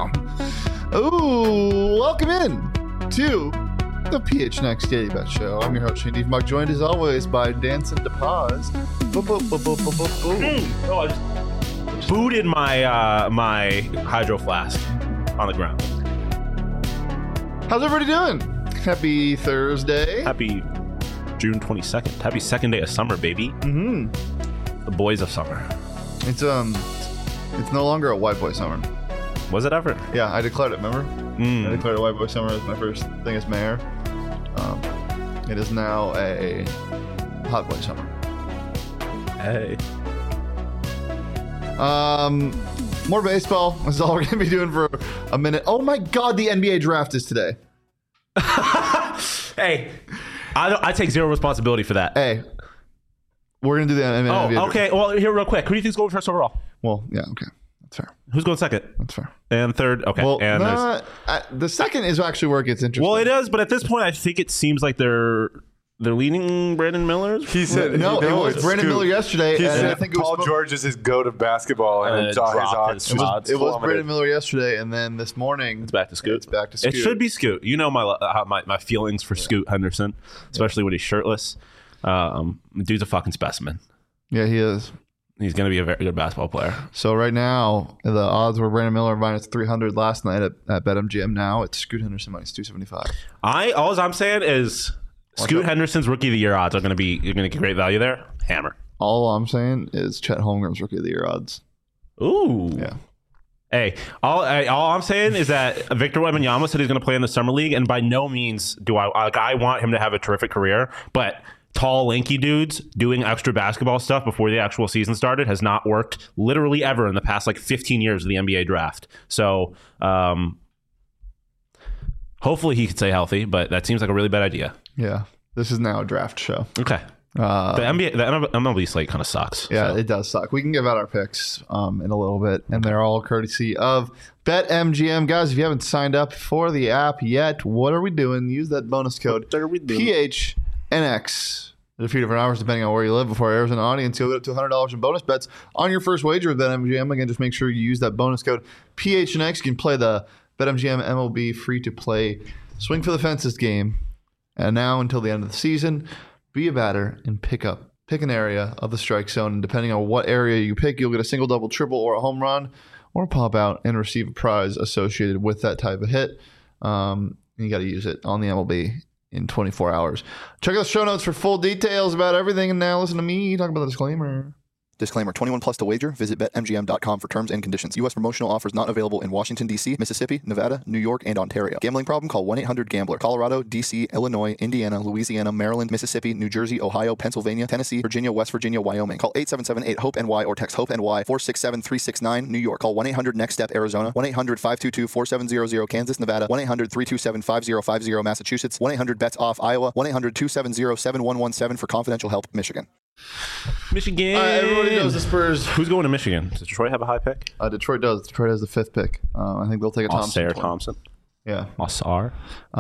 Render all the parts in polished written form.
Ooh, welcome in to the PH Next Daily Bet Show. I'm your host, Shane Diefenbach, joined as always by Danson DePaz. I just booted my my hydro flask on the ground. How's everybody doing? Happy Thursday. Happy June 22nd. Happy second day of summer, baby. Mm-hmm. The boys of summer. It's no longer a white boy summer. Was it ever? Yeah, I declared it, remember? I declared a white boy summer as my first thing as mayor. It is now a hot boy summer. Hey. More baseball. This is all we're going to be doing for a minute. Oh my God, the NBA draft is today. Hey, I take zero responsibility for that. Hey, we're going to do the NBA Oh, okay. Well, here real quick. Who do you think's going first overall? Well, yeah, okay. That's fair. Who's going second? That's fair. And third? Okay. Well, and the second is actually where it gets interesting. well, it is, but at this point, I think it seems like they're leaning Brandon Miller. He said No, it was Brandon Miller yesterday. He and said I think it Paul was George is his go to basketball, and it saw his dropped odds. his odds. it was plummeted. Brandon Miller yesterday, and then this morning It's back to Scoot. It's back to Scoot. It should be Scoot. You know my feelings for Scoot Henderson, especially when he's shirtless. Dude's a fucking specimen. Yeah, he is. He's going to be a very good basketball player. So right now, the odds were Brandon Miller minus 300 last night at BetMGM. Now it's Scoot Henderson minus 275. All I'm saying is Scoot Henderson's rookie of the year odds are going to be, you're going to get great value there. Hammer. All I'm saying is Chet Holmgren's rookie of the year odds. Ooh. Yeah. Hey, all I'm saying is that Victor Wembanyama said he's going to play in the summer league, and by no means do I want him to have a terrific career, but tall, lanky dudes doing extra basketball stuff before the actual season started has not worked literally ever in the past 15 years of the NBA draft. So hopefully he could stay healthy, but that seems like a really bad idea. Yeah. This is now a draft show. Okay. The MLB slate kind of sucks. Yeah, so. It does suck. We can give out our picks in a little bit, and they're all courtesy of BetMGM. Guys, if you haven't signed up for the app yet, what are we doing? Use that bonus code PHNX. There's a few different hours depending on where you live before it airs in the audience. You'll get up to $100 in bonus bets on your first wager with BetMGM. Again, just make sure you use that bonus code PHNX. You can play the BetMGM MLB free-to-play Swing for the Fences game. And now until the end of the season, be a batter and pick an area of the strike zone. And depending on what area you pick, you'll get a single, double, triple, or a home run, or pop out and receive a prize associated with that type of hit. You got to use it on the MLB in 24 hours. Check out the show notes for full details about everything. And now listen to me talk about the disclaimer. Disclaimer, 21 plus to wager. Visit BetMGM.com for terms and conditions. U.S. promotional offers not available in Washington, D.C., Mississippi, Nevada, New York, and Ontario. Gambling problem? Call 1-800-GAMBLER. Colorado, D.C., Illinois, Indiana, Louisiana, Maryland, Mississippi, New Jersey, Ohio, Pennsylvania, Tennessee, Virginia, West Virginia, Wyoming. Call 877-8-HOPE-NY or text HOPE-NY 467-369. New York. Call 1-800-NEXT-STEP, Arizona. 1-800-522-4700, Kansas, Nevada. 1-800-327-5050, Massachusetts. 1-800-BETS-OFF, Iowa. 1-800-270-7117 for confidential help, Michigan. Michigan. Everybody knows the Spurs. Who's going to Michigan? Does Detroit have a high pick? Detroit does. Detroit has the 5th pick. I think they'll take a Thompson. Yeah. Osar.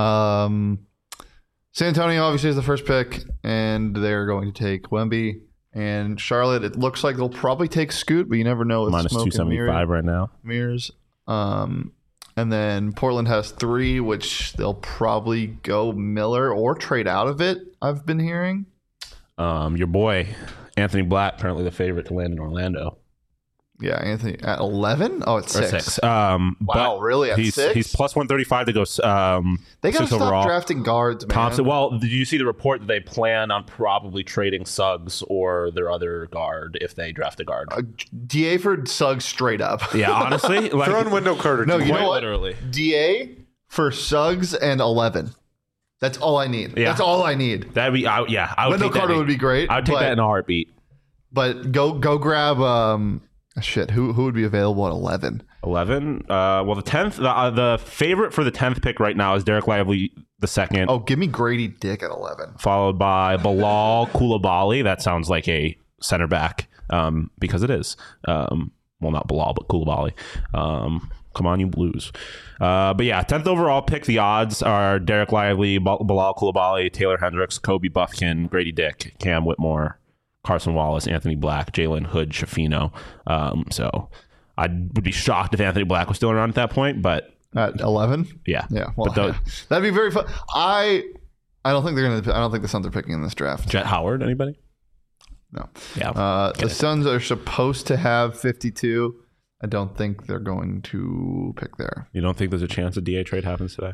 San Antonio obviously is the first pick, and they're going to take Wemby. And Charlotte, it looks like they'll probably take Scoot, but you never know. Minus 275 right now. Mirrors. And then Portland has 3, which they'll probably go Miller or trade out of it, I've been hearing. Your boy, Anthony Black, currently the favorite to land in Orlando. Yeah, Anthony at 11? Oh, it's 6. Wow, really? At 6? He's plus 135 to go. They got to stop overall. drafting guards, man. Thompson. Well, did you see the report that they plan on probably trading Suggs or their other guard if they draft a guard? DA for Suggs straight up. Yeah, honestly. Throwing Wendell Carter. No, you know what? Literally. DA for Suggs and 11. That's all I need. Yeah. That's all I need. That'd be, I would Wendell Carter would be great. I would take that in a heartbeat. But go grab, who would be available at 11? 11? Well, the 10th, the favorite for the 10th pick right now is Derek Lively the second. Oh, give me Grady Dick at 11. Followed by Bilal Coulibaly. That sounds like a center back because it is. Well, not Bilal, but Coulibaly. Come on, you Blues. But yeah, 10th overall pick. The odds are Derek Lively, Bilal Coulibaly, Taylor Hendricks, Kobe Buffkin, Grady Dick, Cam Whitmore, Carson Wallace, Anthony Black, Jalen Hood, Shafino. So I would be shocked if Anthony Black was still around at that point, but At 11? yeah. Yeah. Well, But that'd be very fun. I don't think they're gonna. I don't think the Suns are picking in this draft. Jet Howard, anybody? No. Yeah. The Suns are supposed to have 52. I don't think they're going to pick there. You don't think there's a chance a DA trade happens today?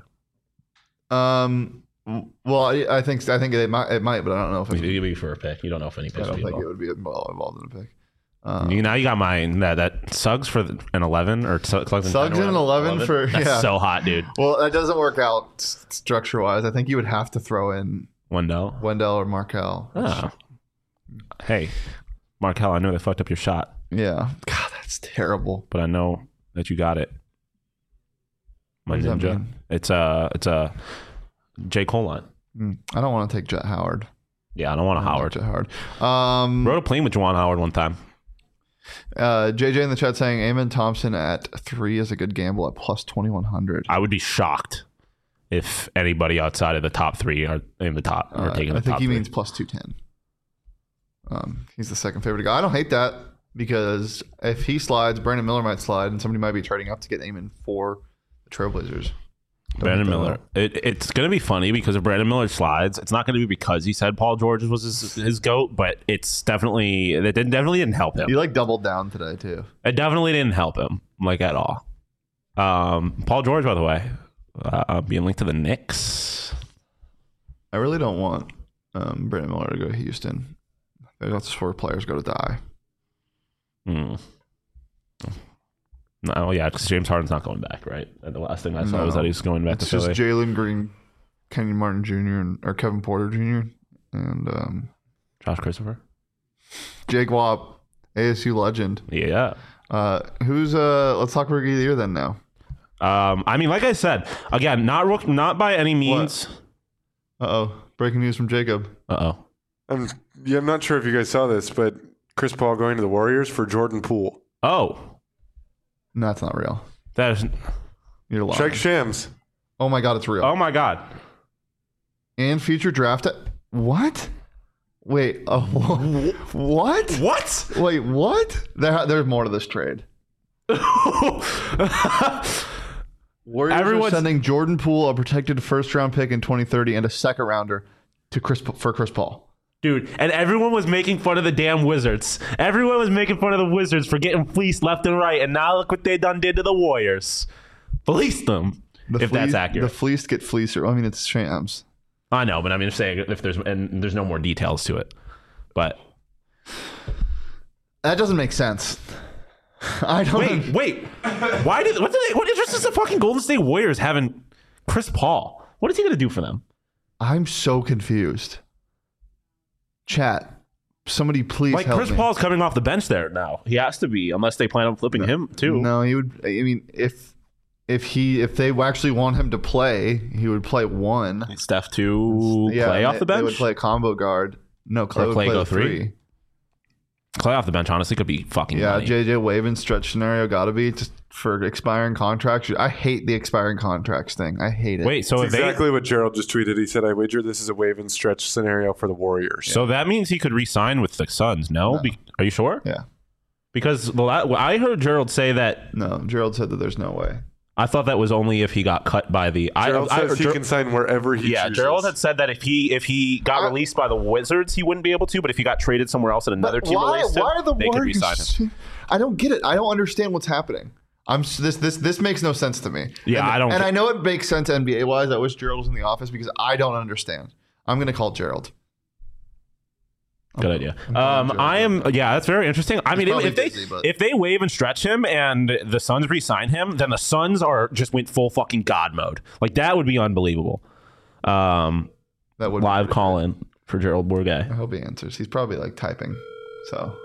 Well, I think it might, but I don't know if Maybe for a pick. You don't know if any I picks don't will be think it involved. would be involved in a pick. Now you got mine. That Suggs for an 11 or Suggs in Suggs in an 11 for That's yeah. so hot, dude. Well, that doesn't work out structure wise. I think you would have to throw in Wendell. Wendell or Markel. Oh. Hey, Markel, I know they fucked up your shot, Yeah. God, that's terrible. but I know that you got it. My What does that ninja. mean? It's a J. Cole line. I don't want to take Jet Howard. Yeah, I don't want a Howard. Jet Howard. Rode a plane with Juwan Howard one time. JJ in the chat saying Amen Thompson at 3 is a good gamble at plus 2100. I would be shocked if anybody outside of the top 3 are in the top or taking the I think top he 3. means plus 210. He's the second favorite guy. I don't hate that because if he slides, Brandon Miller might slide, and somebody might be trading up to get Amen for the Trailblazers. Brandon Miller. It's going to be funny because if Brandon Miller slides, it's not going to be because he said Paul George was his GOAT, but it definitely didn't help him. He doubled down today too. It definitely didn't help him at all. Paul George, by the way, being linked to the Knicks. I really don't want Brandon Miller to go to Houston. That's where players go to die. No, yeah, because James Harden's not going back, right? And the last thing I saw was that he's going back It's to just Philly. Jalen Green, Kenyon Martin Jr. or Kevin Porter Jr. and Josh Christopher. Jake Watt, ASU legend. Yeah. Who's let's talk rookie of the year then now. I mean, like I said, again, not by any means. Breaking news from Jacob. I'm not sure if you guys saw this, but Chris Paul going to the Warriors for Jordan Poole. Oh. No, that's not real. That is. You're lying. Check Shams. Oh my god, it's real. Oh my God. And future draft. What? Wait. What? What? Wait, what? There's more to this trade. Warriors are sending Jordan Poole, a protected first-round pick in 2030, and a second-rounder for Chris Paul. Dude, and everyone was making fun of the damn Wizards. Everyone was making fun of the Wizards for getting fleeced left and right, and now look what they done did to the Warriors. Fleeced them, that's accurate. The fleeced get fleecer. I mean, it's Shams. I know, but I'm just saying if there's no more details to it. But that doesn't make sense. I don't. Wait. What interest does the fucking Golden State Warriors having Chris Paul? What is he going to do for them? I'm so confused. Chat, somebody please help Chris me. Paul's coming off the bench there now. He has to be, unless they plan on flipping him too. No, he would. I mean, if they actually want him to play, he would play one. Steph to Clay off the bench. They would play a combo guard. No, Clay would Clay play go the three. Clay off the bench honestly could be fucking money. JJ Wavin stretch scenario got to be just for expiring contracts. I hate the expiring contracts thing. I hate it. Wait, so That's exactly what Gerald just tweeted. He said, "I wager this is a wave and stretch scenario for the Warriors." So that means he could re-sign with the Suns. No. Are you sure? Yeah. Because I heard Gerald say that. No, Gerald said that there's no way. I thought that was only if he got cut by the. Gerald says he can sign wherever he chooses. Gerald had said that if he got released by the Wizards, he wouldn't be able to. But if he got traded somewhere else and another team released him, they could re-sign him. I don't get it. I don't understand what's happening. This makes no sense to me. Yeah, I don't. And I know it makes sense NBA wise. I wish Gerald was in the office because I don't understand. I'm gonna call Gerald. Good idea. That's very interesting. I mean, if they waive and stretch him and the Suns re-sign him, then the Suns went full fucking God mode. Like that would be unbelievable. That would live call in for Gerald Bourguet. I hope he answers. He's probably typing. So.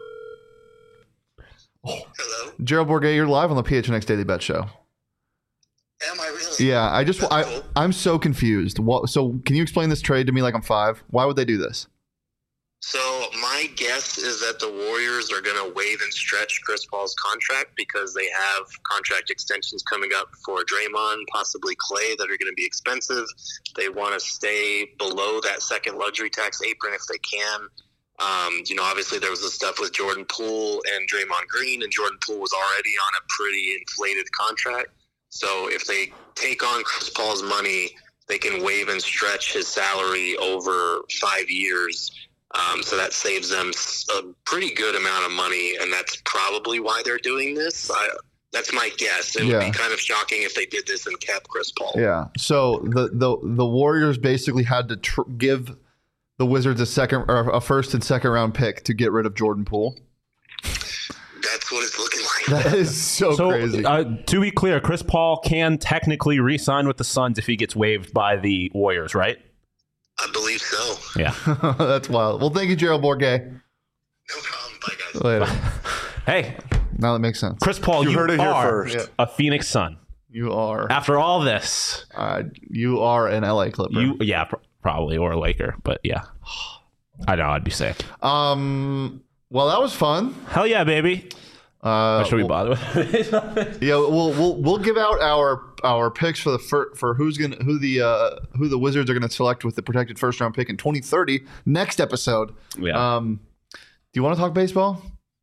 Hello. Gerald Bourguet, you're live on the PHNX Daily Bet Show. Am I really? Yeah, Cool. I'm so confused. So can you explain this trade to me like I'm 5? Why would they do this? So my guess is that the Warriors are going to waive and stretch Chris Paul's contract because they have contract extensions coming up for Draymond, possibly Clay, that are going to be expensive. They want to stay below that second luxury tax apron if they can. Obviously there was the stuff with Jordan Poole and Draymond Green, and Jordan Poole was already on a pretty inflated contract. So if they take on Chris Paul's money, they can waive and stretch his salary over 5 years. So that saves them a pretty good amount of money, and that's probably why they're doing this. That's my guess. It would be kind of shocking if they did this and kept Chris Paul. Yeah. So the Warriors basically had to give the Wizards a first and second round pick to get rid of Jordan Poole. That's what it's looking like. That is so crazy. To be clear, Chris Paul can technically re-sign with the Suns if he gets waived by the Warriors, right? I believe so. Yeah. That's wild. Well, thank you, Gerald Bourguet. No problem. Bye, guys. Later. Hey, Now that makes sense. Chris Paul, you heard it here are first. a Phoenix Sun. You are. After all this, You are an LA Clipper. Probably, or a Laker, but yeah. I know, I'd be sick. Well, that was fun. Hell yeah, baby. Should we bother with it? Yeah, we'll give out our picks for who the Wizards are going to select with the protected first round pick in 2030 next episode. Yeah. Do you want to talk baseball?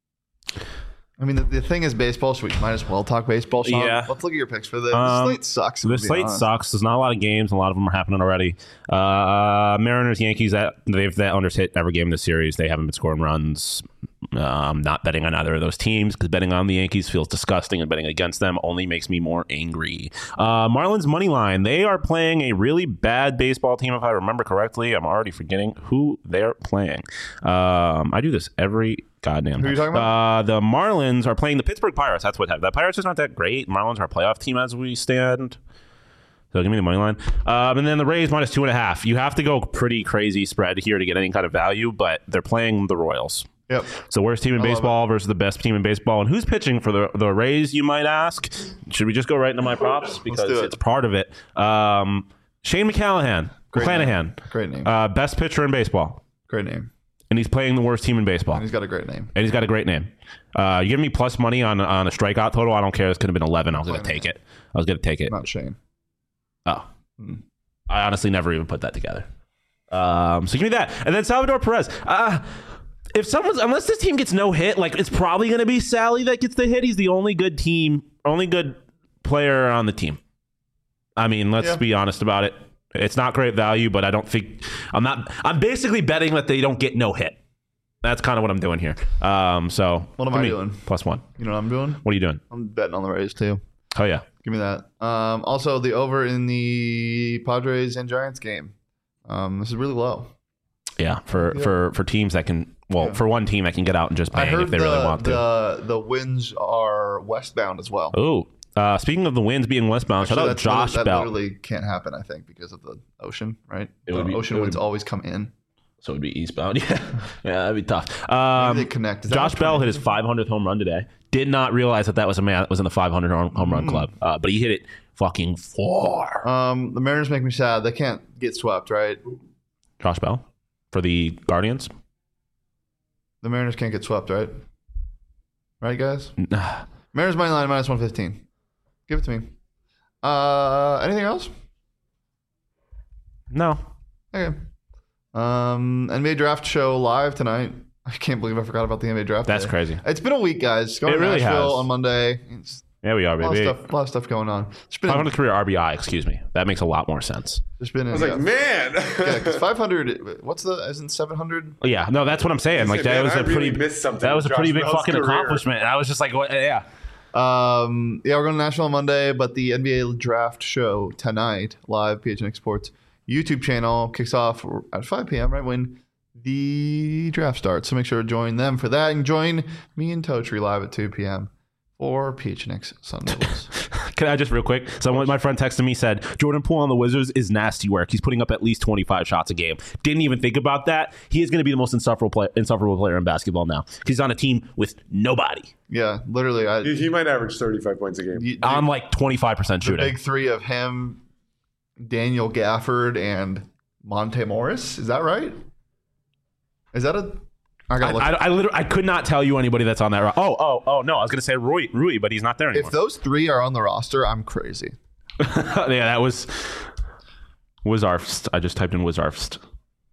I mean, the thing is baseball, so we might as well talk baseball. Sean. Yeah. Let's look at your picks for the slate sucks. The slate sucks. There's not a lot of games. A lot of them are happening already. Mariners, Yankees, they've unders hit every game in the series. They haven't been scoring runs. I'm not betting on either of those teams because betting on the Yankees feels disgusting, and betting against them only makes me more angry. Marlins money line. They are playing a really bad baseball team, if I remember correctly. I'm already forgetting who they're playing. I do this every goddamn. Who are you talking about? The Marlins are playing the Pittsburgh Pirates. That's what happened. The Pirates is not that great. Marlins are a playoff team as we stand. So give me the money line. And then the Rays minus 2.5. You have to go pretty crazy spread here to get any kind of value, but they're playing the Royals. Yep. So worst team in baseball versus the best team in baseball. And who's pitching for the Rays, you might ask? Should we just go right into my props? Because it's part of it. Shane McClanahan. Great name. Best pitcher in baseball. Great name. And he's playing the worst team in baseball. And he's got a great name. You give me plus money on a strikeout total. I don't care. This could have been 11. I was going to take it. Not Shane. Oh. I honestly never even put that together. So give me that. And then Salvador Perez. Unless this team gets no hit, like it's probably going to be Sally that gets the hit. He's the only good player on the team. I mean, let's be honest about it. It's not great value, but I don't think I'm basically betting that they don't get no hit. That's kind of what I'm doing here. So what am I doing? +1. You know what I'm doing? What are you doing? I'm betting on the Rays too. Oh yeah. Give me that. Also the over in the Padres and Giants game. This is really low. Yeah, for teams that can for one team that can get out and just bang if they really want to. The winds are westbound as well. Oh, speaking of the winds being westbound, shout out Josh Bell. That literally can't happen, I think, because of the ocean, right? Ocean winds always come in. So it would be eastbound. Yeah, that'd be tough. Maybe they connect. Josh Bell hit his 500th home run today. Did not realize that was a man that was in the 500 home run club, but he hit it fucking far. The Mariners make me sad. They can't get swept, right? Josh Bell for the Guardians. The Mariners can't get swept, right? Right, guys? Mariners money line minus 115. Give it to me. Anything else? No. Okay. NBA draft show live tonight. I can't believe I forgot about the NBA draft. That's crazy. It's been a week, guys. Going to Nashville on Monday. Yeah, we are, baby. A lot of stuff going on. 500 career RBI, excuse me. That makes a lot more sense. I was like, man. Yeah, because 500, isn't 700? Oh, yeah, no, that's what I'm saying. Like, that was a pretty big fucking accomplishment. And I was just like, what? Yeah. We're going to Nashville on Monday, but the NBA draft show tonight, live, PHNX Sports YouTube channel, kicks off at 5 p.m., right when the draft starts. So make sure to join them for that, and join me and Totri live at 2 p.m. for PHNX Sundays. Can I just real quick? So my friend texted me, said Jordan Poole on the Wizards is nasty work. He's putting up at least 25 shots a game. Didn't even think about that. He is going to be the most insufferable player in basketball now. He's on a team with nobody. Yeah, literally. He might average 35 points a game. On like 25% shooting. The big three of him, Daniel Gafford, and Monte Morris. Is that right? Is that a... I could not tell you anybody that's on that. Oh no, I was going to say Rui, but he's not there anymore. If those three are on the roster, I'm crazy. Yeah, that was Wizarfst. I just typed in Wizarfst.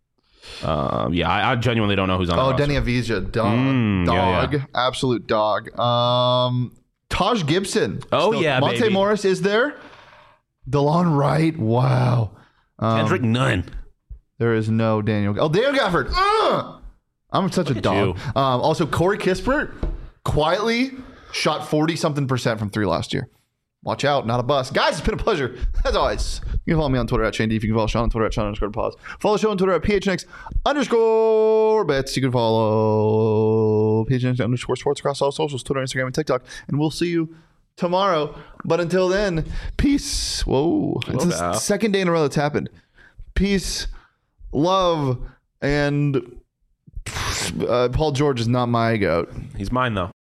I genuinely don't know who's on the roster. Denny Avija, dog, absolute dog. Taj Gibson. Monte baby. Morris is there. DeLon Wright. Wow. Kendrick Nunn. There is no Daniel. Daniel Gafford. I'm such a dog. Also, Corey Kispert quietly shot 40-something% from 3 last year. Watch out, not a bust. Guys, it's been a pleasure. As always, you can follow me on Twitter at Shane D. You can follow Sean on Twitter at Sean_pause. Follow the show on Twitter at PHNX_bets. You can follow PHNX_sports across all socials, Twitter, Instagram, and TikTok. And we'll see you tomorrow. But until then, peace. Whoa. It's the second day in a row that's happened. Peace, love, and Paul George is not my goat. He's mine, though.